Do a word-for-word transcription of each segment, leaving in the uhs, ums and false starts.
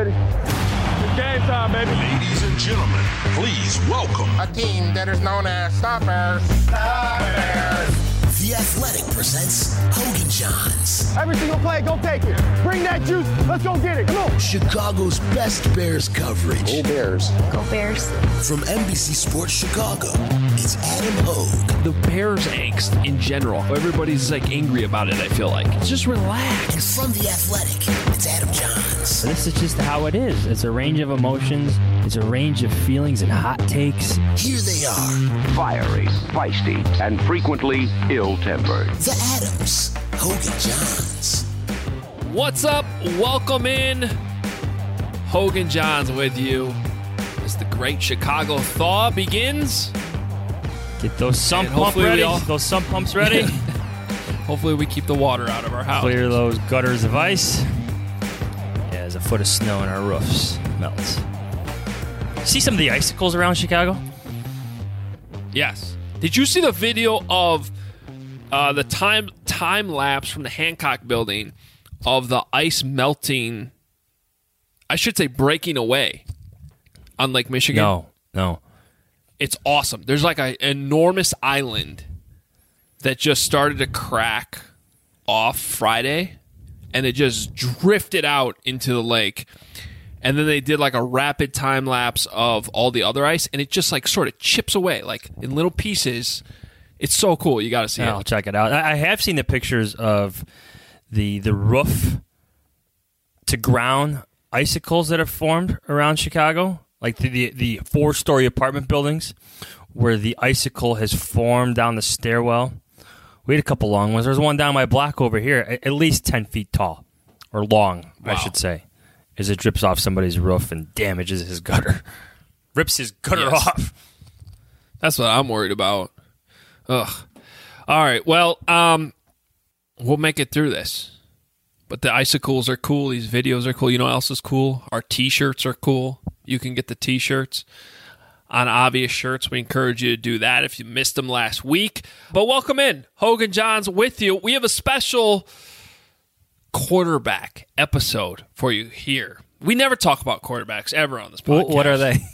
ready. It's game time, baby. Ladies and gentlemen, please welcome a team that is known as Stoppers. Stoppers. The Athletic presents Hogan Johns. Every single play, go take it. Bring that juice. Let's go get it. Come on. Chicago's best Bears coverage. Go Bears. Go Bears. From N B C Sports Chicago, it's Adam Hogue. The Bears angst in general. Everybody's like angry about it, I feel like. Just relax. And from The Athletic, it's Adam Johns. This is just how it is. It's a range of emotions. It's a range of feelings and hot takes. Here they are. Fiery, feisty, and frequently ill-tempered. The Adams. Hogan Johns. What's up? Welcome in. Hogan Johns with you as the great Chicago thaw begins. Get those sump And pump hopefully we ready. all- Those sump pumps ready. Hopefully we keep the water out of our house. Clear those gutters of ice. Yeah, there's a foot of snow on our roofs. Melts. See some of the icicles around Chicago? Yes. Did you see the video of uh, the time time lapse from the Hancock building of the ice melting, I should say breaking away on Lake Michigan? No, no. It's awesome. There's like an enormous island that just started to crack off Friday, and it just drifted out into the lake. And then they did like a rapid time lapse of all the other ice, and it just like sort of chips away, like in little pieces. It's so cool. You got to see Yeah, it. I'll check it out. I I have seen the pictures of the the roof to ground icicles that have formed around Chicago, like the the, the four story apartment buildings where the icicle has formed down the stairwell. We had a couple long ones. There's one down my block over here, at at least ten feet tall, or long, Wow. I should say, as it drips off somebody's roof and damages his gutter, rips his gutter Yes. off. That's what I'm worried about. Ugh. All right. Well, um, we'll make it through this. But the icicles are cool. These videos are cool. You know what else is cool? Our T-shirts are cool. You can get the T-shirts on Obvious Shirts. We encourage you to do that if you missed them last week. But welcome in. Hogan Johns with you. We have a special quarterback episode for you here. We never talk about quarterbacks ever on this podcast. Wh- What are they?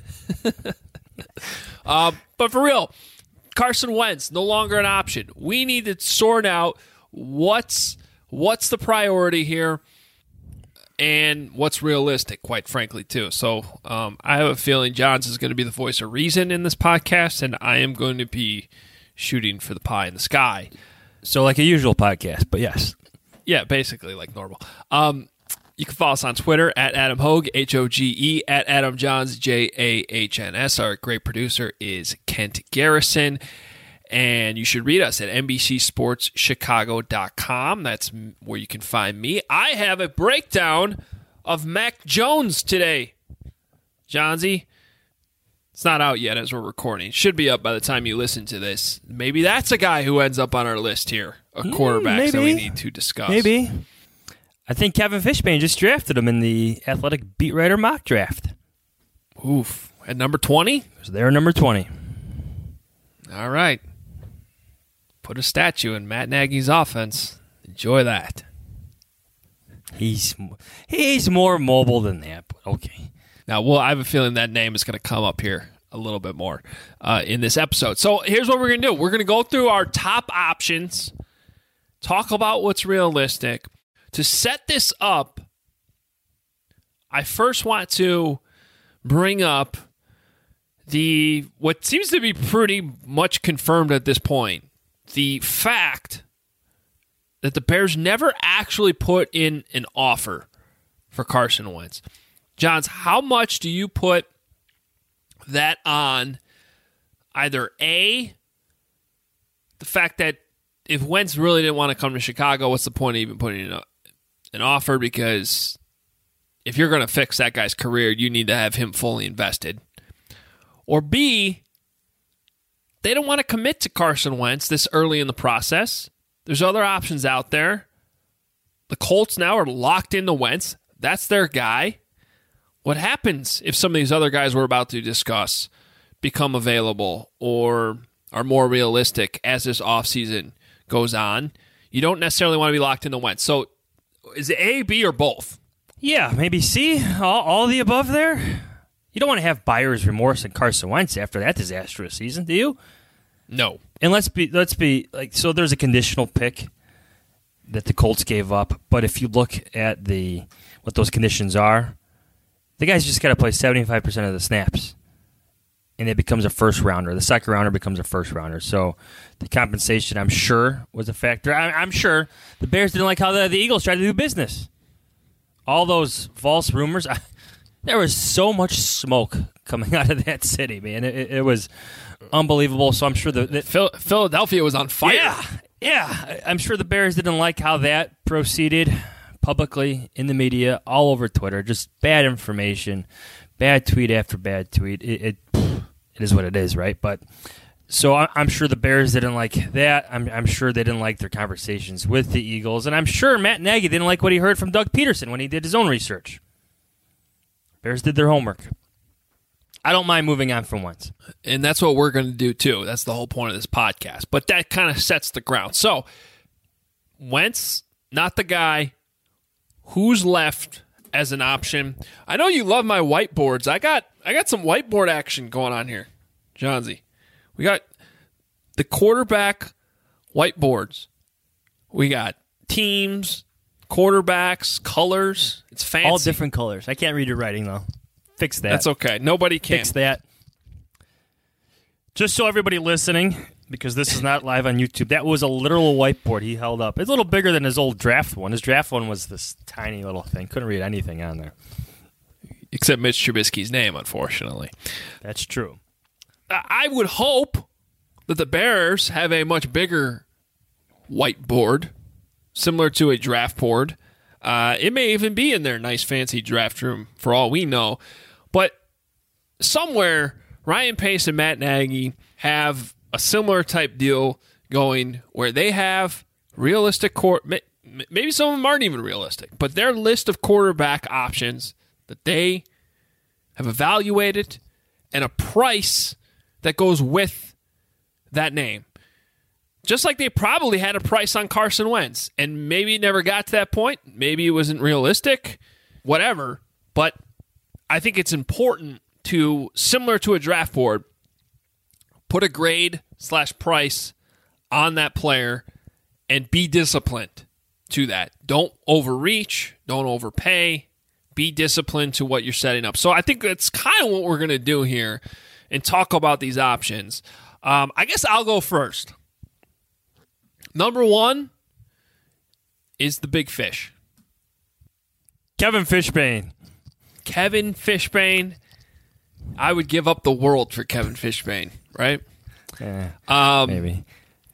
Uh, but for real, Carson Wentz, no longer an option. We need to sort out what's what's the priority here and what's realistic, quite frankly, too. So um, I have a feeling Johns is going to be the voice of reason in this podcast, and I am going to be shooting for the pie in the sky. So like a usual podcast, but yes. Yeah, basically like normal. Um, you can follow us on Twitter at Adam Hogue, H O G E, at Adam Johns, J A H N S. Our great producer is Kent Garrison. And you should read us at N B C Sports Chicago dot com. That's where you can find me. I have a breakdown of Mac Jones today. Johnsy, it's not out yet as we're recording. It should be up by the time you listen to this. Maybe that's a guy who ends up on our list here of quarterbacks that we need to discuss. Maybe. I think Kevin Fishbane just drafted him in the Athletic Beat Writer mock draft. Oof. At number twenty? So they're number twenty. All right. Put a statue in Matt Nagy's offense. Enjoy that. He's he's more mobile than that, but okay. Now, well, I have a feeling that name is going to come up here a little bit more uh, in this episode. So here's what we're going to do. We're going to go through our top options, talk about what's realistic. To set this up, I first want to bring up the what seems to be pretty much confirmed at this point, the fact that the Bears never actually put in an offer for Carson Wentz. Johns, how much do you put that on either A, the fact that if Wentz really didn't want to come to Chicago, what's the point of even putting in a, an offer? Because if you're going to fix that guy's career, you need to have him fully invested. Or B, they don't want to commit to Carson Wentz this early in the process. There's other options out there. The Colts now are locked into Wentz. That's their guy. What happens if some of these other guys we're about to discuss become available or are more realistic as this offseason goes on? You don't necessarily want to be locked into Wentz. So is it A, B, or both? Yeah, maybe C, all, all the above there. You don't want to have buyer's remorse and Carson Wentz after that disastrous season, do you? No. And let's be let's be like so. There's a conditional pick that the Colts gave up, but if you look at the what those conditions are, the guy's just got to play seventy-five percent of the snaps, and it becomes a first rounder. The second rounder becomes a first rounder. So the compensation, I'm sure, was a factor. I, I'm sure the Bears didn't like how the, the Eagles tried to do business. All those false rumors. I, there was so much smoke coming out of that city, man. It, it was unbelievable. So I'm sure the, the Phil, Philadelphia was on fire. Yeah, yeah. I'm sure the Bears didn't like how that proceeded publicly in the media, all over Twitter. Just bad information, bad tweet after bad tweet. It it, it is what it is, right? But so I, I'm sure the Bears didn't like that. I'm, I'm sure they didn't like their conversations with the Eagles, and I'm sure Matt Nagy didn't like what he heard from Doug Peterson when he did his own research. Bears did their homework. I don't mind moving on from Wentz. And that's what we're going to do, too. That's the whole point of this podcast. But that kind of sets the ground. So, Wentz, not the guy. Who's left as an option? I know you love my whiteboards. I got I got some whiteboard action going on here, Johnsy. We got the quarterback whiteboards. We got teams, quarterbacks, colors. It's fancy. All different colors. I can't read your writing, though. Fix that. That's okay. Nobody can. Fix that. Just so everybody listening, because this is not live on YouTube, that was a literal whiteboard he held up. It's a little bigger than his old draft one. His draft one was this tiny little thing. Couldn't read anything on there. Except Mitch Trubisky's name, unfortunately. That's true. I would hope that the Bears have a much bigger whiteboard, similar to a draft board. Uh, it may even be in their nice, fancy draft room, for all we know. But somewhere, Ryan Pace and Matt Nagy have a similar type deal going where they have realistic court. Maybe some of them aren't even realistic, but their list of quarterback options that they have evaluated and a price that goes with that name. Just like they probably had a price on Carson Wentz, and maybe it never got to that point. Maybe it wasn't realistic, whatever. But I think it's important to, similar to a draft board, put a grade slash price on that player and be disciplined to that. Don't overreach. Don't overpay. Be disciplined to what you're setting up. So I think that's kind of what we're going to do here and talk about these options. Um, I guess I'll go first. Number one is the big fish. Kevin Fishbane. Kevin Fishbane. I would give up the world for Kevin Fishbane, right? Yeah, um, maybe.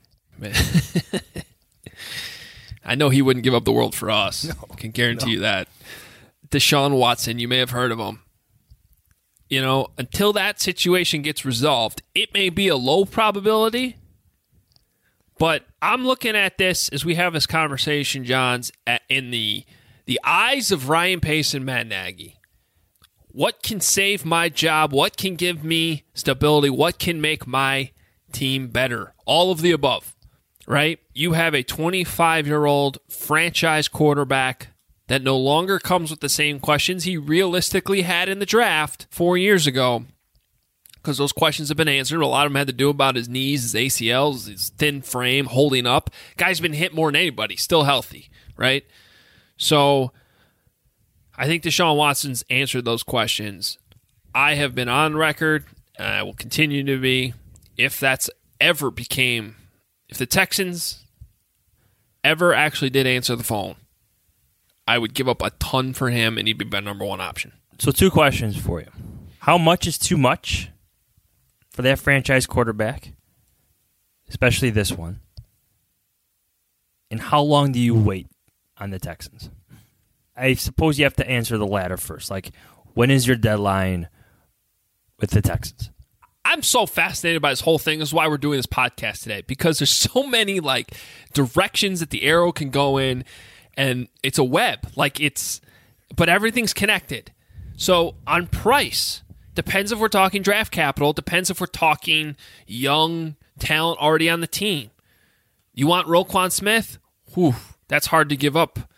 I know he wouldn't give up the world for us. No, I can guarantee no. you that. Deshaun Watson, you may have heard of him. You know, until that situation gets resolved, it may be a low probability. But I'm looking at this as we have this conversation, Johns, at, in the the eyes of Ryan Pace and Matt Nagy. What can save my job? What can give me stability? What can make my team better? All of the above, right? You have a twenty-five-year-old franchise quarterback that no longer comes with the same questions he realistically had in the draft four years ago, because those questions have been answered. A lot of them had to do about his knees, his A C Ls, his thin frame, holding up. Guy's been hit more than anybody, still healthy, right? So I think Deshaun Watson's answered those questions. I have been on record, and I will continue to be, if that's ever became, if the Texans ever actually did answer the phone, I would give up a ton for him, and he'd be my number one option. So two questions for you. How much is too much for that franchise quarterback, especially this one? And how long do you wait on the Texans? I suppose you have to answer the latter first. Like, when is your deadline with the Texans? I'm so fascinated by this whole thing. This is why we're doing this podcast today, because there's so many like directions that the arrow can go in, and it's a web. Like it's, but everything's connected. So on price, depends if we're talking draft capital, depends if we're talking young talent already on the team. You want Roquan Smith? Whew, that's hard to give up.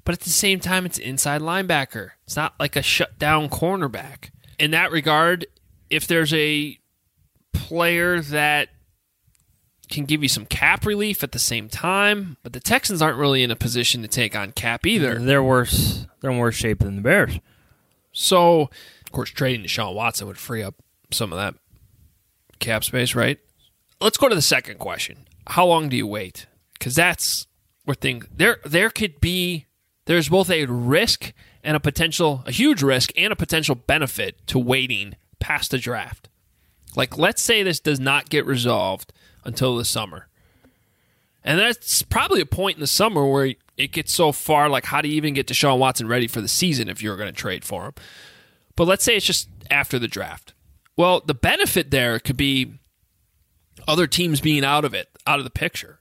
But at the same time, it's inside linebacker. It's not like a shutdown cornerback. In that regard, if there's a player that can give you some cap relief at the same time, but the Texans aren't really in a position to take on cap either. They're worse. They're in worse shape than the Bears. So, of course, trading Deshaun Watson would free up some of that cap space, right? Let's go to the second question. How long do you wait? Because that's where things there. There could be there's both a risk and a potential, a huge risk and a potential benefit to waiting past the draft. Like, let's say this does not get resolved until the summer. And that's probably a point in the summer where it gets so far, like, how do you even get Deshaun Watson ready for the season if you're going to trade for him? But let's say it's just after the draft. Well, the benefit there could be other teams being out of it, out of the picture.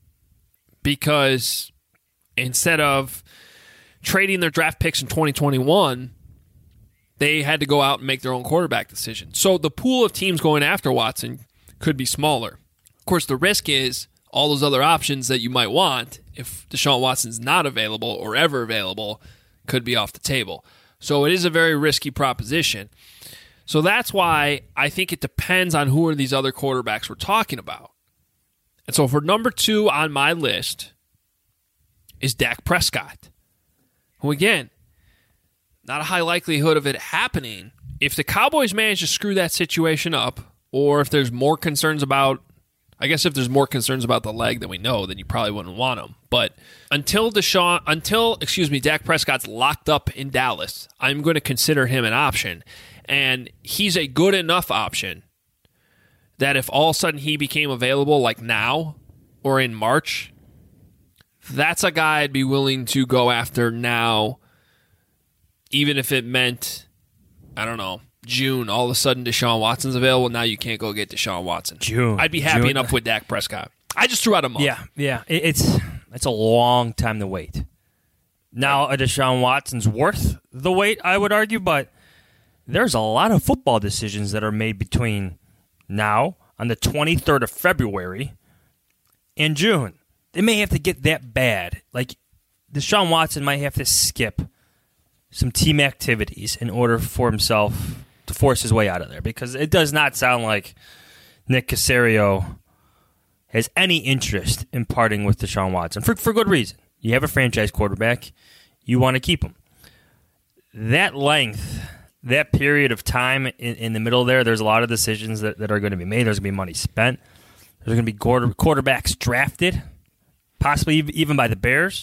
Because instead of trading their draft picks in twenty twenty-one, they had to go out and make their own quarterback decision. So the pool of teams going after Watson could be smaller. Of course, the risk is all those other options that you might want, if Deshaun Watson's not available or ever available, could be off the table. So it is a very risky proposition. So that's why I think it depends on who are these other quarterbacks we're talking about. And so for number two on my list is Dak Prescott, who, again, not a high likelihood of it happening. If the Cowboys manage to screw that situation up, or if there's more concerns about, I guess if there's more concerns about the leg than we know, then you probably wouldn't want him. But until Deshaun, until, excuse me, Dak Prescott's locked up in Dallas, I'm going to consider him an option. And he's a good enough option that if all of a sudden he became available like now or in March, that's a guy I'd be willing to go after now, even if it meant, I don't know, June, all of a sudden Deshaun Watson's available. Now you can't go get Deshaun Watson. June. I'd be happy June. enough with Dak Prescott. I just threw out a month. Yeah, yeah. It, it's it's a long time to wait. Now, a Deshaun Watson's worth the wait, I would argue, but there's a lot of football decisions that are made between now on the twenty-third of February and June. They may have to get that bad. Like, Deshaun Watson might have to skip some team activities in order for himself to force his way out of there, because it does not sound like Nick Caserio has any interest in parting with Deshaun Watson for, for good reason. You have a franchise quarterback. You want to keep him. That length, that period of time in, in the middle there, there's a lot of decisions that, that are going to be made. There's going to be money spent. There's going to be quarter, quarterbacks drafted, possibly even by the Bears.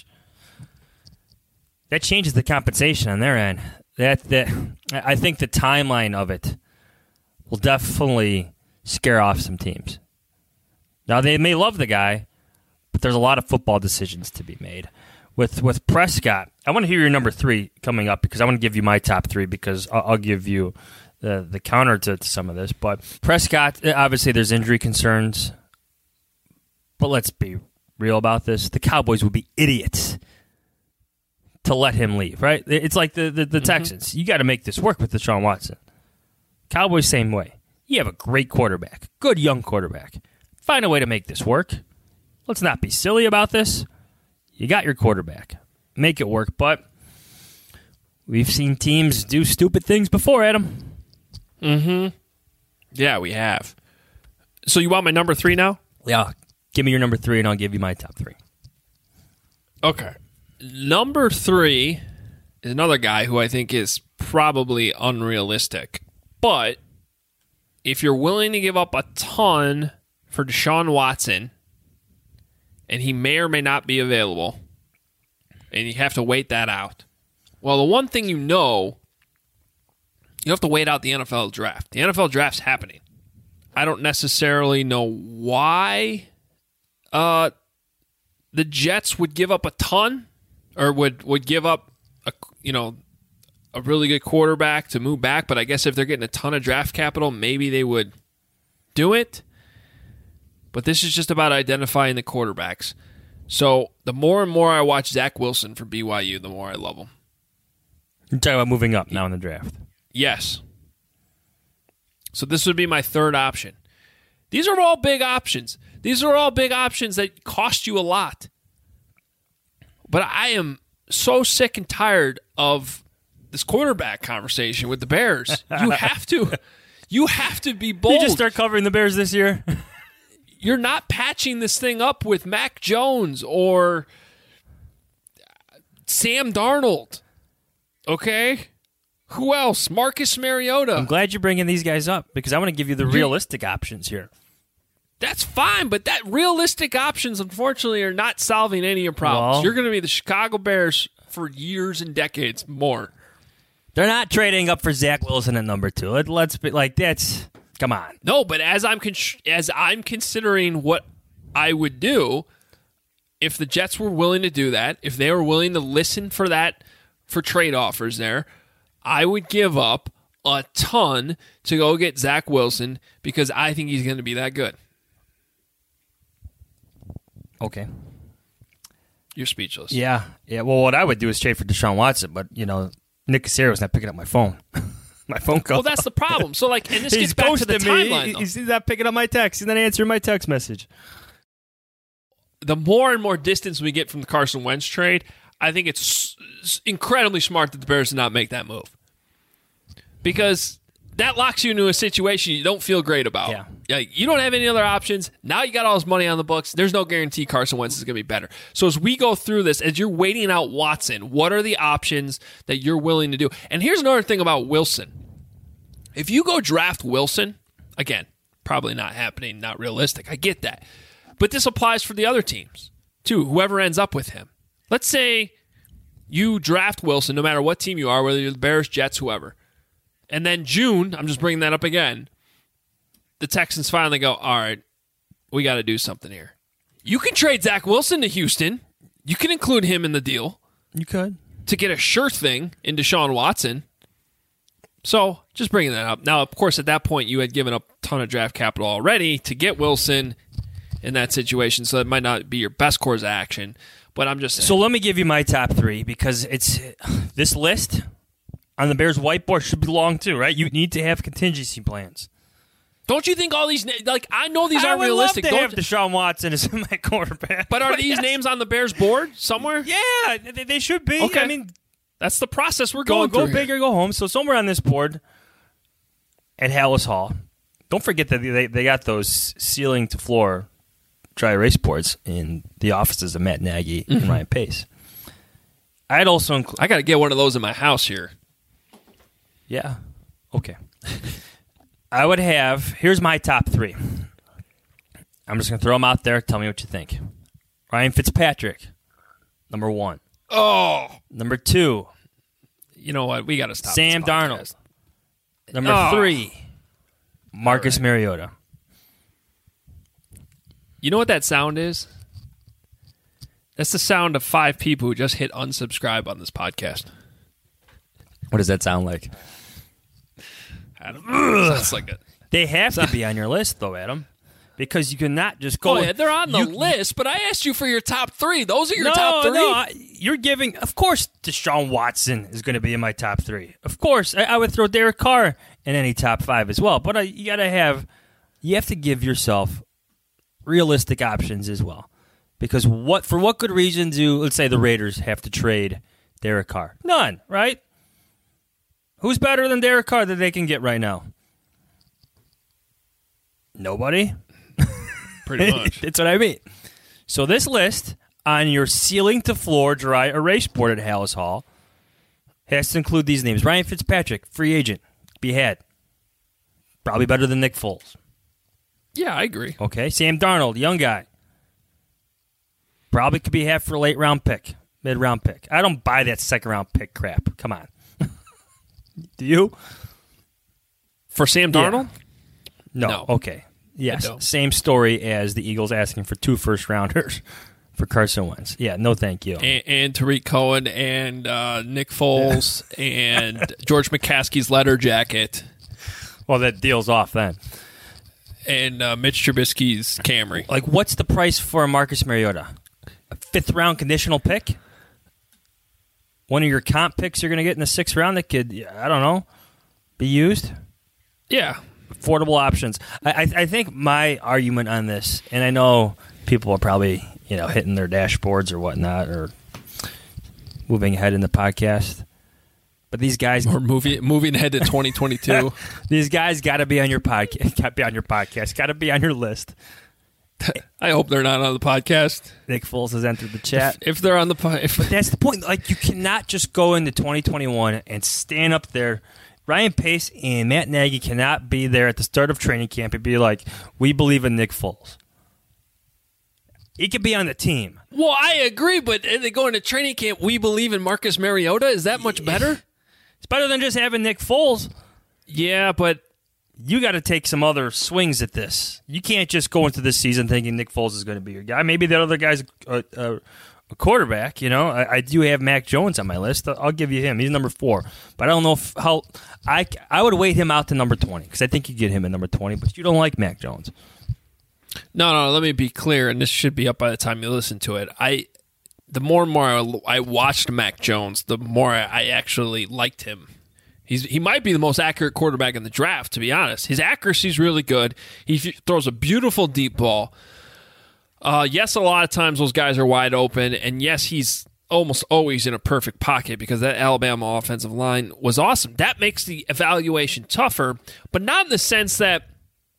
That changes the compensation on their end. That that I think the timeline of it will definitely scare off some teams. Now, they may love the guy, but there's a lot of football decisions to be made. With with Prescott, I want to hear your number three coming up, because I want to give you my top three, because I'll, I'll give you the, the counter to, to some of this. But Prescott, obviously there's injury concerns, but let's be real about this. The Cowboys would be idiots to let him leave, right? It's like the, the, the Texans. Mm-hmm. You got to make this work with Deshaun Watson. Cowboys, same way. You have a great quarterback, good young quarterback. Find a way to make this work. Let's not be silly about this. You got your quarterback. Make it work. But we've seen teams do stupid things before, Adam. Mm-hmm. Yeah, we have. So you want my number three now? Yeah. Give me your number three, and I'll give you my top three. Okay. Number three is another guy who I think is probably unrealistic. But if you're willing to give up a ton for Deshaun Watson, and he may or may not be available, and you have to wait that out. Well, the one thing you know, you have to wait out the N F L draft. The N F L draft's happening. I don't necessarily know why uh, the Jets would give up a ton, or would, would give up a you know a really good quarterback to move back. But I guess if they're getting a ton of draft capital, maybe they would do it. But this is just about identifying the quarterbacks. So the more and more I watch Zach Wilson for B Y U, the more I love him. You're talking about moving up now in the draft. Yes. So this would be my third option. These are all big options. These are all big options that cost you a lot. But I am so sick and tired of this quarterback conversation with the Bears. You have to, you have to be bold. You just start covering the Bears this year. You're not patching this thing up with Mac Jones or Sam Darnold. Okay? Who else? Marcus Mariota. I'm glad you're bringing these guys up because I want to give you the realistic options here. That's fine, but that realistic options, unfortunately, are not solving any of your problems. Well, You're going to be the Chicago Bears for years and decades more. They're not trading up for Zach Wilson at number two. Let, let's be like that's come on. No, but as I'm con- as I'm considering what I would do if the Jets were willing to do that, if they were willing to listen for that for trade offers there, I would give up a ton to go get Zach Wilson because I think he's going to be that good. Okay. You're speechless. Yeah. Yeah. Well, what I would do is trade for Deshaun Watson, but, you know, Nick Casero's not picking up my phone. my phone call. Well, that's the problem. So, like, and this He's gets back to the ghosting me. timeline, though. He's not picking up my text. He's not answering my text message. The more and more distance we get from the Carson Wentz trade, I think it's incredibly smart that the Bears did not make that move. Because that locks you into a situation you don't feel great about. Yeah. Yeah, you don't have any other options. Now you got all this money on the books. There's no guarantee Carson Wentz is going to be better. So as we go through this, as you're waiting out Watson, what are the options that you're willing to do? And here's another thing about Wilson. If you go draft Wilson, again, probably not happening, not realistic. I get that. But this applies for the other teams, too, whoever ends up with him. Let's say you draft Wilson, no matter what team you are, whether you're the Bears, Jets, whoever. And then June, I'm just bringing that up again, the Texans finally go, all right, we got to do something here. You can trade Zach Wilson to Houston. You can include him in the deal. You could. To get a sure thing in Deshaun Watson. So, just bringing that up. Now, of course, at that point, you had given up a ton of draft capital already to get Wilson in that situation, so it might not be your best course of action. But I'm just saying. So let me give you my top three because it's this list on the Bears whiteboard should be long too, right? You need to have contingency plans. Don't you think all these like I know these I aren't would realistic? love to Don't have Deshaun Watson as my quarterback. But are these yes. names on the Bears board somewhere? Yeah, they, they should be. Okay. I mean, that's the process we're go going go through big here. or go home. So somewhere on this board at Hallis Hall, don't forget that they they got those ceiling to floor dry erase boards in the offices of Matt Nagy mm-hmm. and Ryan Pace. I'd also include. I got to get one of those in my house here. Yeah. Okay. I would have. Here's my top three. I'm just gonna throw them out there. Tell me what you think. Ryan Fitzpatrick, number one. Oh, number two. You know what? We got to stop. Sam Darnold. Number oh. three. Marcus right. Mariota. You know what that sound is? That's the sound of five people who just hit unsubscribe on this podcast. What does that sound like? Adam. Sounds like it. They have to be on your list, though, Adam, because you cannot just go. Oh, yeah, they're on the you, list, but I asked you for your top three. Those are your no, top three. No, I, you're giving. Of course, Deshaun Watson is going to be in my top three. Of course, I, I would throw Derek Carr in any top five as well. But uh, you got to have. You have to give yourself realistic options as well, because what for what good reason do let's say the Raiders have to trade Derek Carr? None, right? Who's better than Derek Carr that they can get right now? Nobody. Pretty much. That's what I mean. So this list on your ceiling to floor dry erase board at Hallis Hall has to include these names. Ryan Fitzpatrick, free agent, be had. Probably better than Nick Foles. Yeah, I agree. Okay. Sam Darnold, young guy. Probably could be half for a late round pick, mid round pick. I don't buy that second round pick crap. Come on. Do you? For Sam Darnold? Yeah. No. no. Okay. Yes. Same story as the Eagles asking for two first rounders for Carson Wentz. Yeah. No, thank you. And, and Tariq Cohen and uh, Nick Foles and George McCaskey's leather jacket. Well, that deal's off then. And uh, Mitch Trubisky's Camry. Like, what's the price for a Marcus Mariota? A fifth round conditional pick? One of your comp picks you're going to get in the sixth round that could, I don't know, be used? Yeah. Affordable options. I, I, I think my argument on this, and I know people are probably, you know, hitting their dashboards or whatnot, or moving ahead in the podcast. But these guys, We're moving moving ahead to twenty twenty-two. these guys got to be on your podcast. Got to be on your podcast. Got to be on your list. I hope they're not on the podcast. Nick Foles has entered the chat. If they're on the po- if But that's the point. Like, you cannot just go into twenty twenty-one and stand up there. Ryan Pace and Matt Nagy cannot be there at the start of training camp and be like, we believe in Nick Foles. He could be on the team. Well, I agree, but they go into training camp. We believe in Marcus Mariota. Is that much better? It's better than just having Nick Foles. Yeah, but You got to take some other swings at this. You can't just go into this season thinking Nick Foles is going to be your guy. Maybe that other guy's a, a, a quarterback. You know, I, I do have Mac Jones on my list. I'll give you him. He's number four, but I don't know if, how. I I would wait him out to number twenty because I think you get him at number twenty. But you don't like Mac Jones. no, no. Let me be clear, and this should be up by the time you listen to it. I, the more and more I, I watched Mac Jones, the more I actually liked him. He's he might be the most accurate quarterback in the draft, to be honest. His accuracy is really good. He f- throws a beautiful deep ball. Uh, yes, a lot of times those guys are wide open, and yes, he's almost always in a perfect pocket because that Alabama offensive line was awesome. That makes the evaluation tougher, but not in the sense that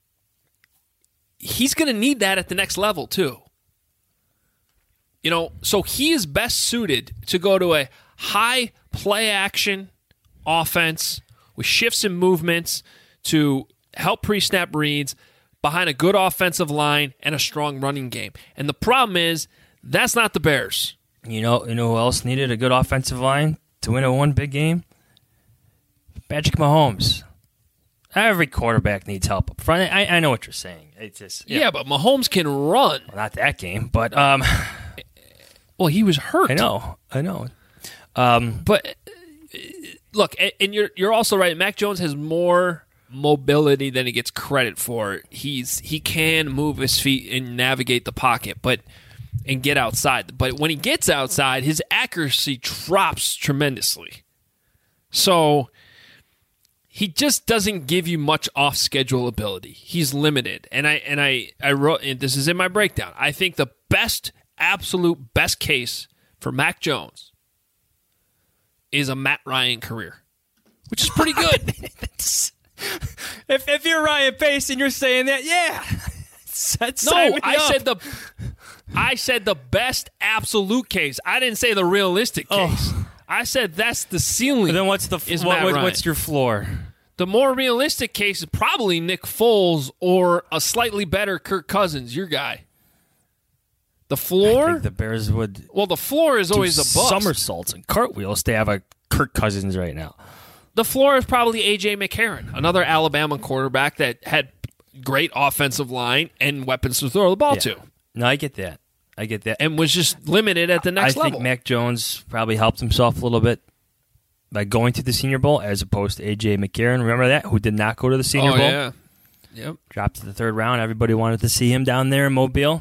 he's going to need that at the next level too. You know, so he is best suited to go to a high play action offense with shifts and movements to help pre-snap reads behind a good offensive line and a strong running game. And the problem is that's not the Bears. You know, you know who else needed a good offensive line to win a one big game? Patrick Mahomes. Every quarterback needs help up front. I, I know what you're saying. It's just Yeah, but Mahomes can run. well, not that game, but um, Well, he was hurt. I know, I know. Um, But uh, look, and and you're you're also right. Mac Jones has more mobility than he gets credit for. He's he can move his feet and navigate the pocket, but and get outside. But when he gets outside, his accuracy drops tremendously. So he just doesn't give you much off schedule ability. He's limited. And I and I I wrote and this is in my breakdown. I think the best absolute best case for Mac Jones is a Matt Ryan career, which is pretty good. if if you're Ryan Pace and you're saying that, yeah. No, I said the I said the best absolute case. I didn't say the realistic case. Oh. I said that's the ceiling. Then what's the is what, Matt what, Ryan. what's your floor? The more realistic case is probably Nick Foles or a slightly better Kirk Cousins, your guy. The I floor? think the Bears would Well, the floor is do always a bust. somersaults and cartwheels to have a Kirk Cousins right now. The floor is probably A J McCarron, another Alabama quarterback that had great offensive line and weapons to throw the ball Yeah. to, No, I get that. I get that. and was just limited at the next I level. think Mac Jones probably helped himself a little bit by going to the Senior Bowl as opposed to A J McCarron. Remember that? Who did not go to the Senior oh, Bowl? yeah. Yep. Dropped to the third round. Everybody wanted to see him down there in Mobile.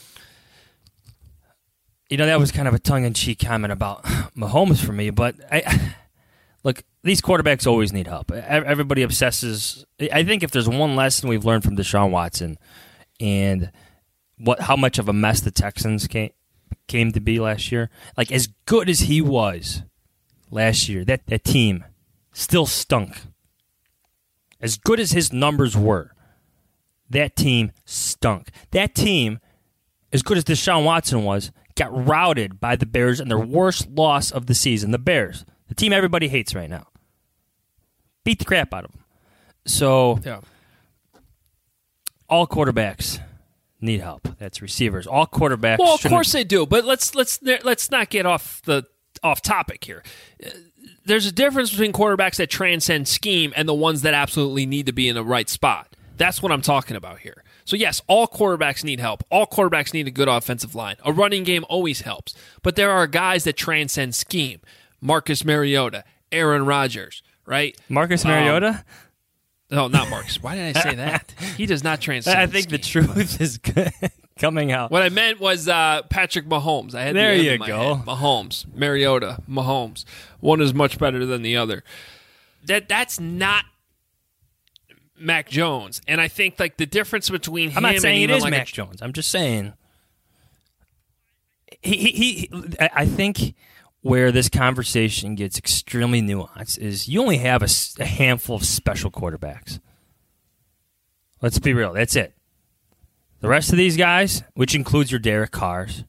You know, that was kind of a tongue-in-cheek comment about Mahomes for me, but I look, these quarterbacks always need help. Everybody obsesses. I think if there's one lesson we've learned from Deshaun Watson and what how much of a mess the Texans came, came to be last year, like as good as he was last year, that, that team still stunk. As good as his numbers were, that team stunk. That team, as good as Deshaun Watson was, got routed by the Bears in their worst loss of the season. The Bears, the team everybody hates right now, beat the crap out of them. So, Yeah. all quarterbacks need help. That's receivers. All quarterbacks. Well, of shouldn't- course they do, but let's let's let's not get off the off topic here. There's a difference between quarterbacks that transcend scheme and the ones that absolutely need to be in the right spot. That's what I'm talking about here. So yes, all quarterbacks need help. All quarterbacks need a good offensive line. A running game always helps. But there are guys that transcend scheme. Marcus Mariota, Aaron Rodgers, right? Marcus Um, Mariota. No, not Marcus. Why did I say that? He does not transcend I think the scheme. truth is good coming out. What I meant was uh, Patrick Mahomes. I had There the end you in my go. head. Mahomes, Mariota, Mahomes. One is much better than the other. That that's not Mac Jones, and I think like the difference between him I'm not and saying it even is like Mac a, Jones. I'm just saying he, he, he I I think where this conversation gets extremely nuanced is you only have a, a handful of special quarterbacks. Let's be real. That's it. The rest of these guys, which includes your Derek Carrs,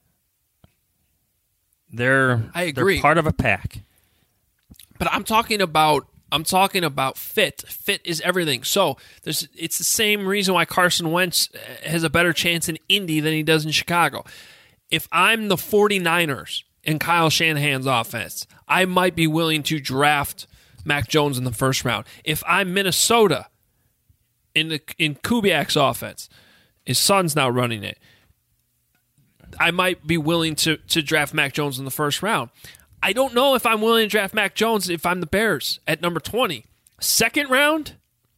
they're, I agree. they're part of a pack. But I'm talking about I'm talking about fit. Fit is everything. So there's it's the same reason why Carson Wentz has a better chance in Indy than he does in Chicago. If I'm the 49ers in Kyle Shanahan's offense, I might be willing to draft Mac Jones in the first round. If I'm Minnesota in the in Kubiak's offense, his son's now running it, I might be willing to to draft Mac Jones in the first round. I don't know if I'm willing to draft Mac Jones if I'm the Bears at number twenty. Second round,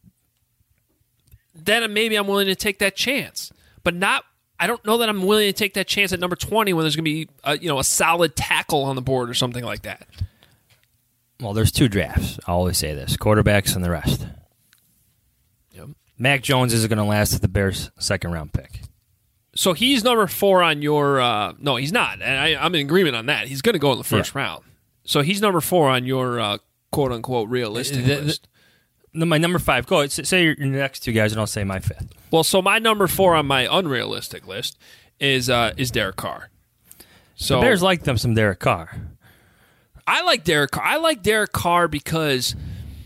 then maybe I'm willing to take that chance. But not, I don't know that I'm willing to take that chance at number twenty when there's going to be a, you know, a solid tackle on the board or something like that. Well, there's two drafts. I always say this, quarterbacks and the rest. Yep. Mac Jones isn't going to last at the Bears' second-round pick. So he's number four on your uh, – no, he's not. And I, I'm in agreement on that. He's going to go in the first yeah. round. So he's number four on your uh, quote-unquote realistic the, list. The, my number five. Go ahead. Say your, your next two guys, and I'll say my fifth. Well, so my number four on my unrealistic list is uh, is Derek Carr. So the Bears like them some Derek Carr. I like Derek Carr. I like Derek Carr because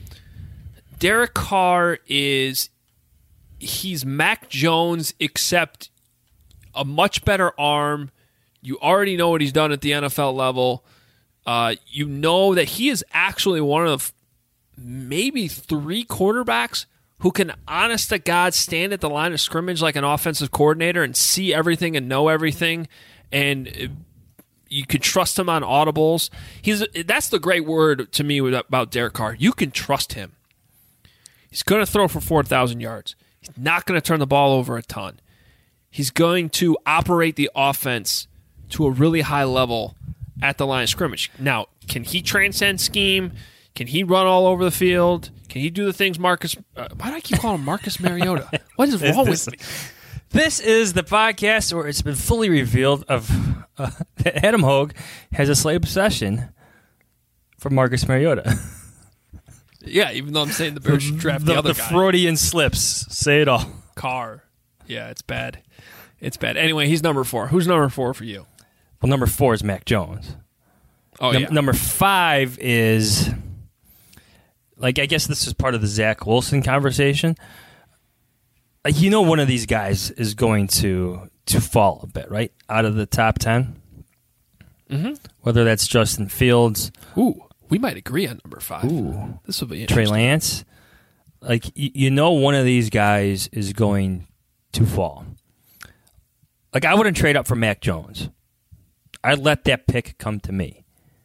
Derek Carr is – he's Mac Jones except a much better arm. You already know what he's done at the N F L level. Uh, you know that he is actually one of maybe three quarterbacks who can, honest to God, stand at the line of scrimmage like an offensive coordinator and see everything and know everything, and you can trust him on audibles. He's that's the great word to me about Derek Carr. You can trust him. He's going to throw for four thousand yards. He's not going to turn the ball over a ton. He's going to operate the offense to a really high level at the line of scrimmage. Now, can he transcend scheme? Can he run all over the field? Can he do the things Marcus... Uh, why do I keep calling him Marcus Mariota? What is wrong this, with me? This is the podcast where it's been fully revealed of uh, that Adam Hogue has a slight obsession for Marcus Mariota. Yeah, even though I'm saying the Bears should draft the, the other the guy. The Freudian slips. Say it all. Carr. Yeah, it's bad. It's bad. Anyway, he's number four. Who's number four for you? Well, number four is Mac Jones. Oh, Num- yeah. Number five is, like, I guess this is part of the Zach Wilson conversation. Like, you know one of these guys is going to to fall a bit, right? Out of the top ten. Mm-hmm. Whether that's Justin Fields. Ooh. We might agree on number five. Ooh. This will be Trey interesting. Lance. Like, y- you know one of these guys is going to fall. Like, I wouldn't trade up for Mac Jones. I'd let that pick come to me.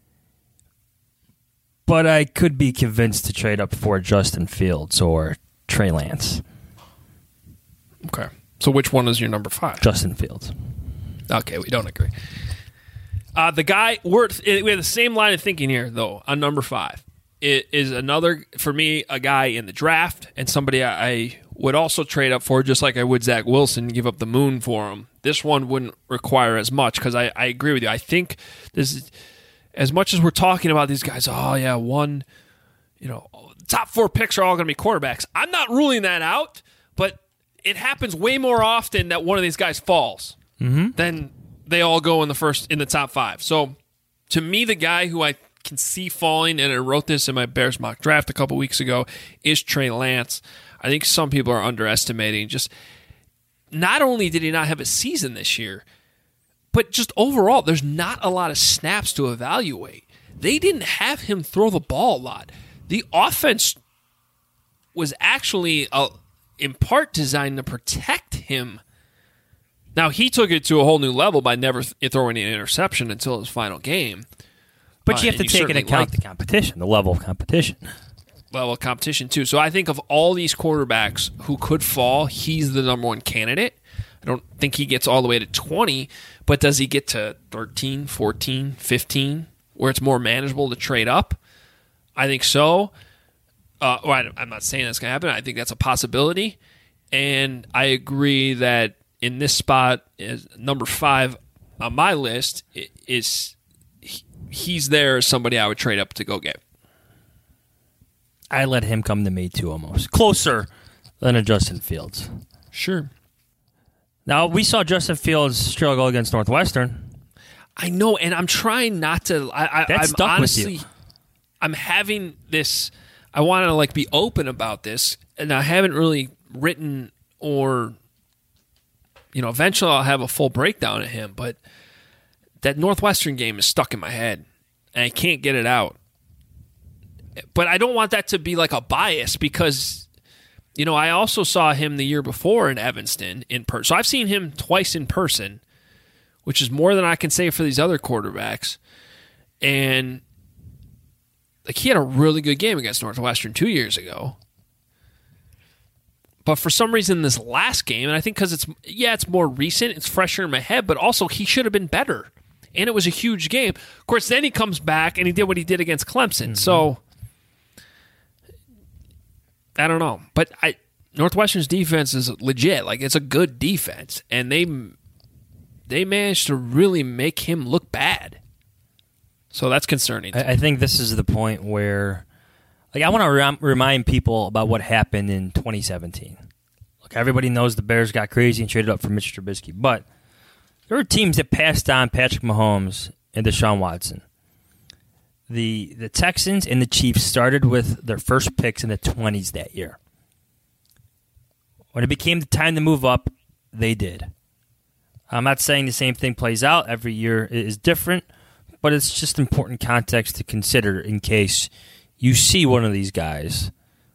But I could be convinced to trade up for Justin Fields or Trey Lance. Okay. So which one is your number five? Justin Fields. Okay, we don't agree. Uh, the guy, we're, we have the same line of thinking here, though, on number five. It is another, for me, a guy in the draft and somebody I, I would also trade up for, just like I would Zach Wilson, give up the moon for him. This one wouldn't require as much because I, I agree with you. I think this is, as much as we're talking about these guys, oh, yeah, one, you know, top four picks are all going to be quarterbacks. I'm not ruling that out, but it happens way more often that one of these guys falls mm-hmm. than they all go in the first in the top five. So to me, the guy who I can see falling, and I wrote this in my Bears mock draft a couple weeks ago, is Trey Lance. I think some people are underestimating just not only did he not have a season this year, but just overall, there's not a lot of snaps to evaluate. They didn't have him throw the ball a lot. The offense was actually, uh, in part, designed to protect him. Now, he took it to a whole new level by never th- throwing an interception until his final game. But uh, you have to you take into account the competition, the level of competition. Level of competition, too. So I think of all these quarterbacks who could fall, he's the number one candidate. I don't think he gets all the way to twenty, but does he get to thirteen, fourteen, fifteen, where it's more manageable to trade up? I think so. Uh, well, I'm not saying that's going to happen. I think that's a possibility. And I agree that in this spot, is number five on my list is he's there as somebody I would trade up to go get. I let him come to me too, almost closer than a Justin Fields. Sure. Now we saw Justin Fields struggle against Northwestern. I know, and I'm trying not to. I, I, That I'm stuck honestly, with you. I'm having this. I want to like be open about this, and I haven't really written or, you know, eventually I'll have a full breakdown of him. But that Northwestern game is stuck in my head, and I can't get it out. But I don't want that to be like a bias because, you know, I also saw him the year before in Evanston in person. So I've seen him twice in person, which is more than I can say for these other quarterbacks. And like he had a really good game against Northwestern two years ago. But for some reason this last game, and I think because it's, yeah, it's more recent, it's fresher in my head, but also he should have been better. And it was a huge game. Of course, then he comes back and he did what he did against Clemson. Mm-hmm. So I don't know. But I Northwestern's defense is legit. Like, it's a good defense. And they they managed to really make him look bad. So that's concerning. I, I think this is the point where, like, I want to rem- remind people about what happened in twenty seventeen. Look, everybody knows the Bears got crazy and traded up for Mitch Trubisky. But there were teams that passed on Patrick Mahomes and Deshaun Watson. The the Texans and the Chiefs started with their first picks in the twenties that year. When it became the time to move up, they did. I'm not saying the same thing plays out. Every year is different, but it's just important context to consider in case you see one of these guys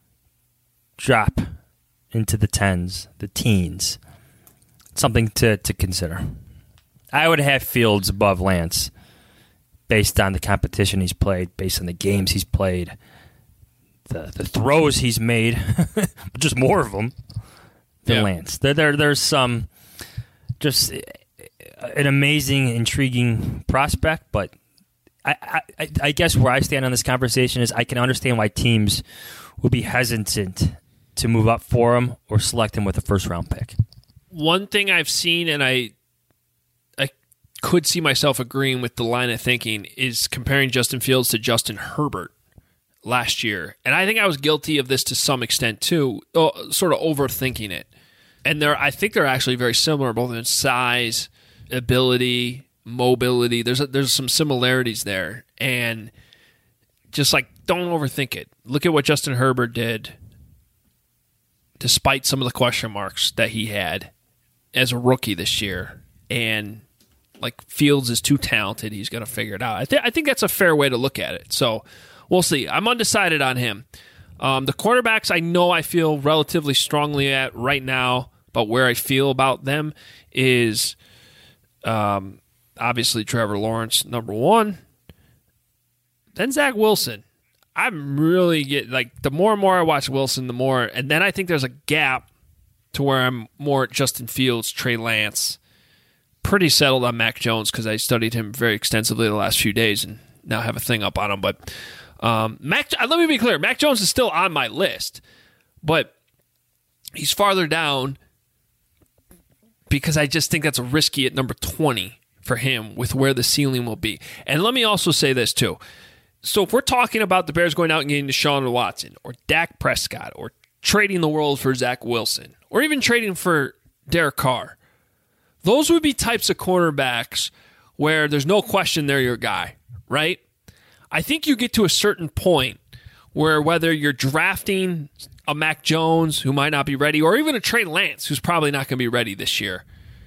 drop into the tens, the teens. Something to, to consider. I would have Fields above Lance based on the competition he's played, based on the games he's played, the the throws he's made, just more of them than yeah. Lance. There, there, there's some just an amazing, intriguing prospect, but I, I, I guess where I stand on this conversation is I can understand why teams would be hesitant to move up for him or select him with a first-round pick. One thing I've seen, and I could see myself agreeing with the line of thinking, is comparing Justin Fields to Justin Herbert last year. And I think I was guilty of this to some extent too, sort of overthinking it. And they're, I think they're actually very similar, both in size, ability, mobility. There's a, there's some similarities there. And just like, don't overthink it. Look at what Justin Herbert did despite some of the question marks that he had as a rookie this year. And like, Fields is too talented. He's going to figure it out. I, th- I think that's a fair way to look at it. So we'll see. I'm undecided on him. Um, the quarterbacks I know I feel relatively strongly at right now, but where I feel about them is um, obviously Trevor Lawrence, number one. Then Zach Wilson. I'm really getting, like, the more and more I watch Wilson, the more. And then I think there's a gap to where I'm more Justin Fields, Trey Lance. Pretty settled on Mac Jones because I studied him very extensively the last few days and now have a thing up on him. But um, Mac, let me be clear, Mac Jones is still on my list, but he's farther down because I just think that's a risky at number twenty for him with where the ceiling will be. And let me also say this too. So if we're talking about the Bears going out and getting Deshaun Watson or Dak Prescott or trading the world for Zach Wilson or even trading for Derek Carr, those would be types of cornerbacks where there's no question they're your guy, right? I think you get to a certain point where whether you're drafting a Mac Jones who might not be ready or even a Trey Lance who's probably not going to be ready this year,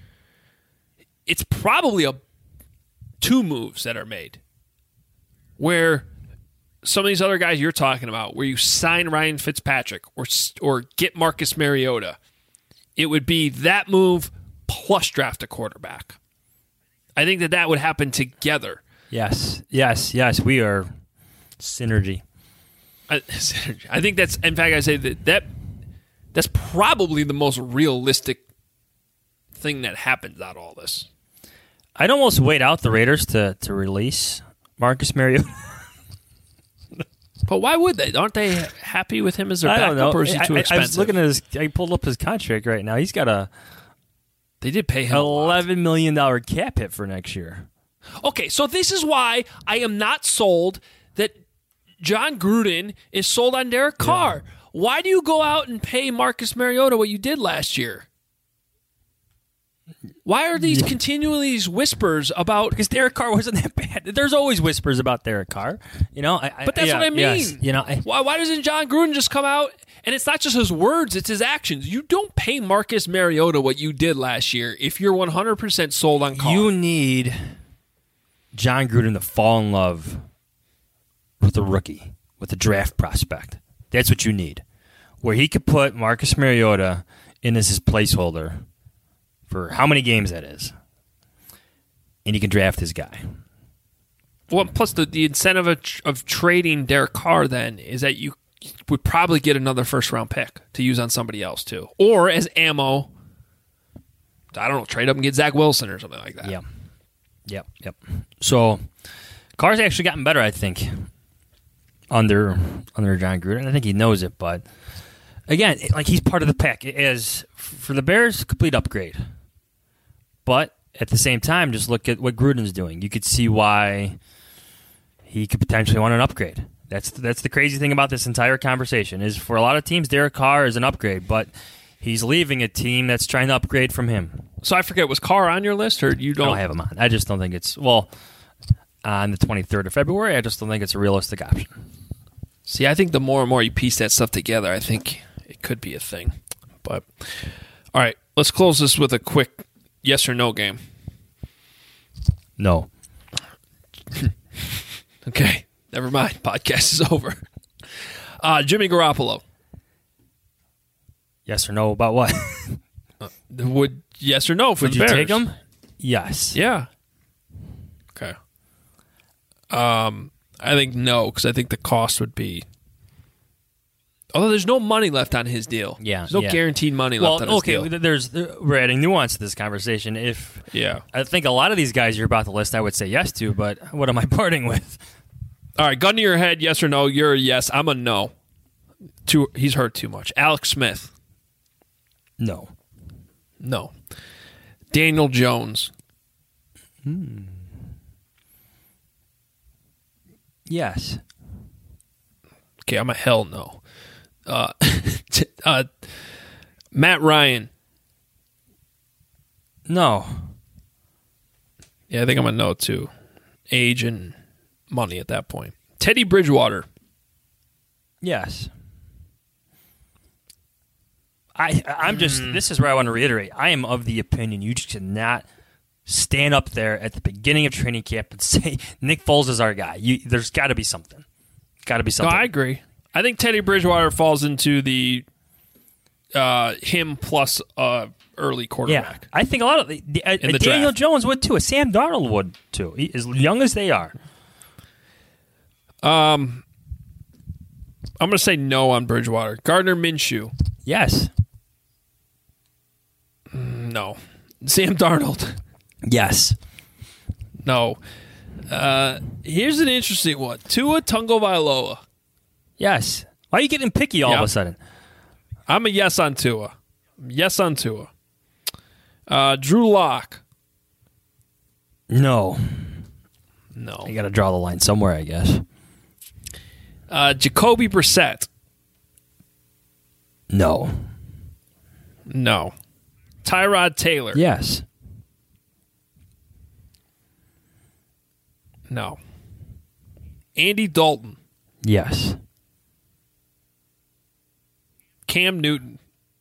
it's probably a two moves that are made where some of these other guys you're talking about, where you sign Ryan Fitzpatrick or or get Marcus Mariota, it would be that move plus draft a quarterback. I think that that would happen together. Yes, yes, yes. We are synergy. I, synergy. I think that's, in fact, I say that, that that's probably the most realistic thing that happens out of all this. I'd almost wait out the Raiders to, to release Marcus Mariota. But why would they? Aren't they happy with him as their backup, or is he too I, expensive? I was looking at his. I pulled up his contract right now. He's got a. They did pay him eleven million dollar cap hit for next year. Okay, so this is why I am not sold that John Gruden is sold on Derek Carr. Yeah. Why do you go out and pay Marcus Mariota what you did last year? Why are these yeah. continually these whispers about... Because Derek Carr wasn't that bad. There's always whispers about Derek Carr. You know, I, I, But that's yeah, what I mean. Yes, you know, I, why, why doesn't John Gruden just come out... And it's not just his words, it's his actions. You don't pay Marcus Mariota what you did last year if you're one hundred percent sold on Carr. You need John Gruden to fall in love with a rookie, with a draft prospect. That's what you need. Where he could put Marcus Mariota in as his placeholder for how many games that is. And he can draft his guy. Well, plus the, the incentive of, of trading Derek Carr then is that you would probably get another first-round pick to use on somebody else, too. Or as ammo, I don't know, trade up and get Zach Wilson or something like that. Yep. Yep, yep. So, Carr's actually gotten better, I think, under under John Gruden. I think he knows it, but, again, like he's part of the pack. As for the Bears, complete upgrade. But, at the same time, just look at what Gruden's doing. You could see why he could potentially want an upgrade. That's that's the crazy thing about this entire conversation is for a lot of teams, Derek Carr is an upgrade, but he's leaving a team that's trying to upgrade from him. So I forget, was Carr on your list, or you don't? I don't have him on. I just don't think it's, well, on the twenty-third of February, I just don't think it's a realistic option. See, I think the more and more you piece that stuff together, I think it could be a thing. But, all right, let's close this with a quick yes or no game. No. Okay. Never mind. Podcast is over. Uh, Jimmy Garoppolo. Yes or no about what? uh, would yes or no for Would the you Bears? take him? Yes. Yeah. Okay. Um, I think no, because I think the cost would be. Although there's no money left on his deal. Yeah. There's no yeah. guaranteed money well, left on his okay, deal. okay, there's we're adding nuance to this conversation. If yeah, I think a lot of these guys you're about to list, I would say yes to, but what am I parting with? All right, gun to your head, yes or no. You're a yes. I'm a no. Too, he's hurt too much. Alex Smith. No. No. Daniel Jones. Hmm. Yes. Okay, I'm a hell no. Uh, uh, Matt Ryan. No. Yeah, I think I'm a no too. Age and money at that point. Teddy Bridgewater. Yes. I, I'm just, mm. this is where I want to reiterate. I am of the opinion you just cannot stand up there at the beginning of training camp and say, Nick Foles is our guy. You, there's got to be something. Got to be something. No, I agree. I think Teddy Bridgewater falls into the uh, him plus uh, early quarterback. Yeah, I think a lot of the, the, uh, the Daniel draft. Jones would too. Sam Darnold would too. He, as young as they are. Um, I'm going to say no on Bridgewater. Gardner Minshew. Yes. No. Sam Darnold. Yes. No. Uh, here's an interesting one. Tua Tagovailoa. Yes. Why are you getting picky all yep. of a sudden? I'm a yes on Tua. Yes on Tua. Uh, Drew Lock. No. No. You got to draw the line somewhere, I guess. Uh, Jacoby Brissett. No. No. Tyrod Taylor. Yes. No. Andy Dalton. Yes. Cam Newton.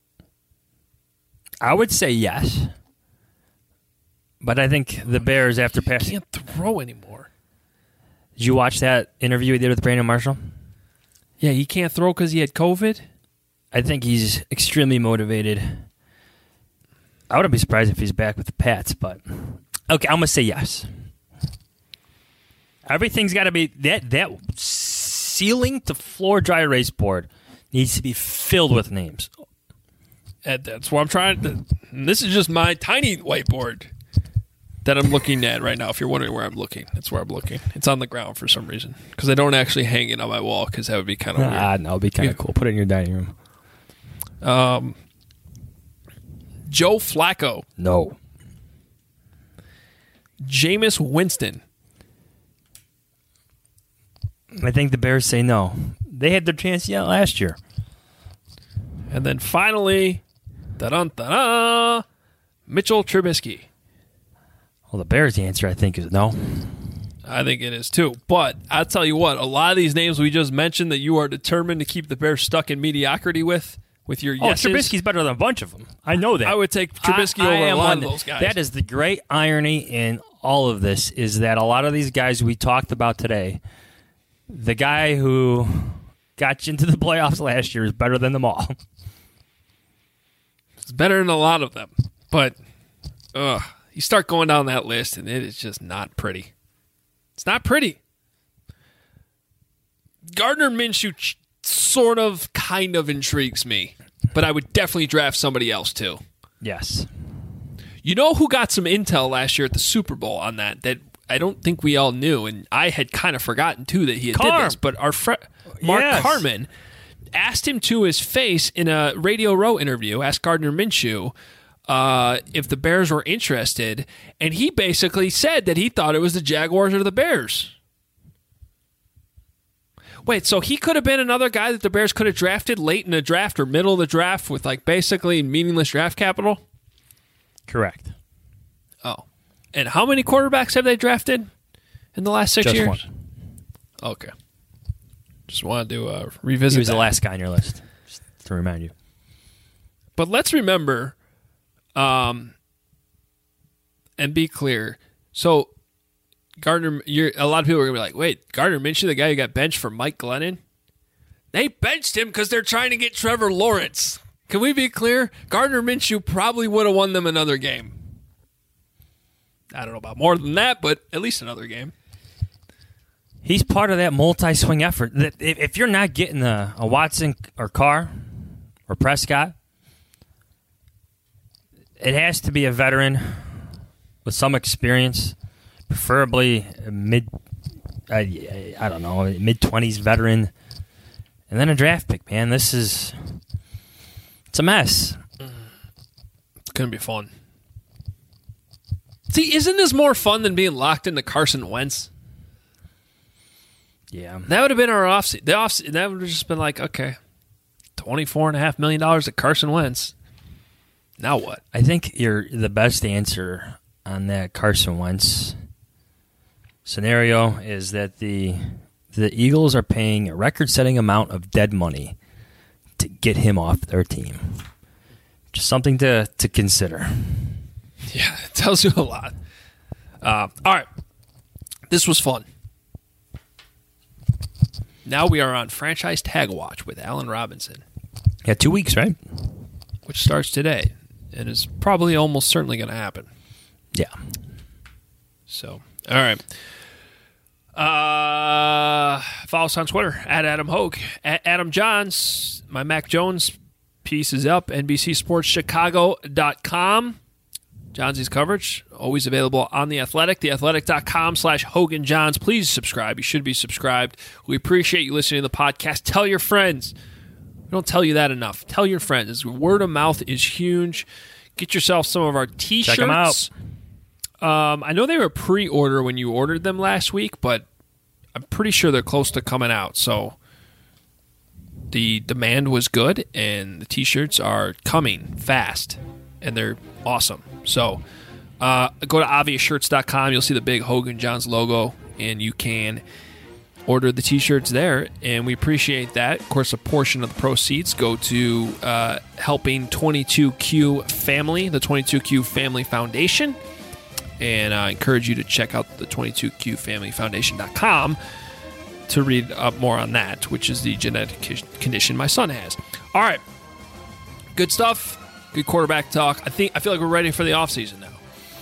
I would say yes. But I think the Bears, after passing... Can't throw anymore. Did you watch that interview he did with Brandon Marshall? Yeah, he can't throw because he had COVID? I think he's extremely motivated. I wouldn't be surprised if he's back with the Pats, but... Okay, I'm going to say yes. Everything's got to be... That, that ceiling to floor dry erase board needs to be filled with names. And that's what I'm trying to... This is just my tiny whiteboard that I'm looking at right now. If you're wondering where I'm looking, that's where I'm looking. It's on the ground for some reason. Because I don't actually hang it on my wall because that would be kind of weird. Ah, no, it'd be kind of yeah. cool. Put it in your dining room. Um, Joe Flacco. No. Jameis Winston. I think the Bears say no. They had their chance yet last year. And then finally, da-dun-da-da, Mitchell Trubisky. Well, the Bears' answer, I think, is no. I think it is too. But I'll tell you what, a lot of these names we just mentioned that you are determined to keep the Bears stuck in mediocrity with, with your Oh, yeses. Trubisky's better than a bunch of them. I know that. I would take Trubisky I- I over a am lot one of that- those guys. That is the great irony in all of this, is that a lot of these guys we talked about today, the guy who got you into the playoffs last year is better than them all. It's better than a lot of them. But ugh, you start going down that list, and it is just not pretty. It's not pretty. Gardner Minshew ch- sort of, kind of intrigues me, but I would definitely draft somebody else too. Yes. You know who got some intel last year at the Super Bowl on that that I don't think we all knew, and I had kind of forgotten too that he had Carm. did this, but our friend Mark Yes. Carman asked him to his face in a Radio Row interview, asked Gardner Minshew uh, if the Bears were interested, and he basically said that he thought it was the Jaguars or the Bears. Wait, so he could have been another guy that the Bears could have drafted late in the draft or middle of the draft with like basically meaningless draft capital? Correct. Oh. And how many quarterbacks have they drafted in the last six Just years? one. Okay. Just wanted to uh, revisit He was that. the last guy on your list, just to remind you. But let's remember um, and be clear. So, Gardner, you're, a lot of people are going to be like, wait, Gardner Minshew, the guy who got benched for Mike Glennon? They benched him because they're trying to get Trevor Lawrence. Can we be clear? Gardner Minshew probably would have won them another game. I don't know about more than that, but at least another game. He's part of that multi-swing effort. That if, if you're not getting a, a Watson or Carr or Prescott, it has to be a veteran with some experience, preferably a mid, I, I don't know, mid-twenties veteran, and then a draft pick, man. This is, it's a mess. It's going to be fun. See, isn't this more fun than being locked into Carson Wentz? Yeah. That would have been our off the off. That would have just been like, okay, twenty-four and a half million dollars at Carson Wentz. Now what? I think your the best answer on that Carson Wentz scenario is that the the Eagles are paying a record-setting amount of dead money to get him off their team. Just something to, to consider. Yeah, it tells you a lot. Uh, all right, this was fun. Now we are on Franchise Tag Watch with Allen Robinson, Yeah, two weeks, right? which starts today and is probably almost certainly going to happen. Yeah. So, all right. Uh, follow us on Twitter at Adam Hogue, at Adam Johns. My Mac Jones piece is up, N B C Sports Chicago dot com. Johnsy's coverage, always available on The Athletic, theathletic.com slash Hogan Johns. Please subscribe. You should be subscribed. We appreciate you listening to the podcast. Tell your friends. We don't tell you that enough. Tell your friends. Word of mouth is huge. Get yourself some of our T-shirts. Check them out. Um, I know they were pre-order when you ordered them last week, but I'm pretty sure they're close to coming out. So the demand was good, and the T-shirts are coming fast, and they're awesome. So uh, go to obvious shirts dot com. You'll see the big Hogan Johns logo, and you can order the T-shirts there, and we appreciate that. Of course, a portion of the proceeds go to uh, helping twenty-two Q Family, the twenty-two Q Family Foundation. And I encourage you to check out the twenty-two Q family foundation dot com to read up more on that, which is the genetic condition my son has. All right. Good stuff. Good quarterback talk. I think I feel like we're ready for the offseason now.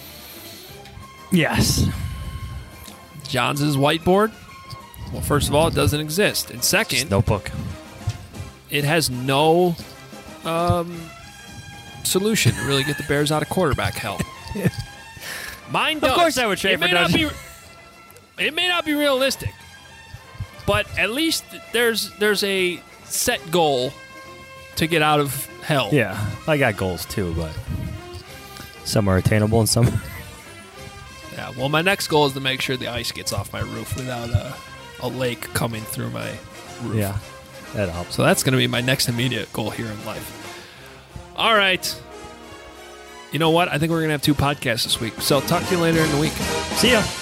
Yes. Johns' whiteboard. Well, first of all, it doesn't exist. And second, Just notebook. it has no um, solution to really get the Bears out of quarterback hell. Mine does. Of course I would trade it for may not be, Dodger. It may not be realistic, but at least there's there's a set goal to get out of hell. Yeah, I got goals too, but some are attainable and some. Yeah, well, my next goal is to make sure the ice gets off my roof without a, a lake coming through my roof. Yeah, that helps. So that's going to be my next immediate goal here in life. All right. You know what? I think we're going to have two podcasts this week. So talk to you later in the week. See ya.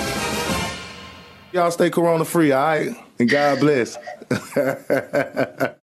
Y'all stay corona free, all right? And God bless.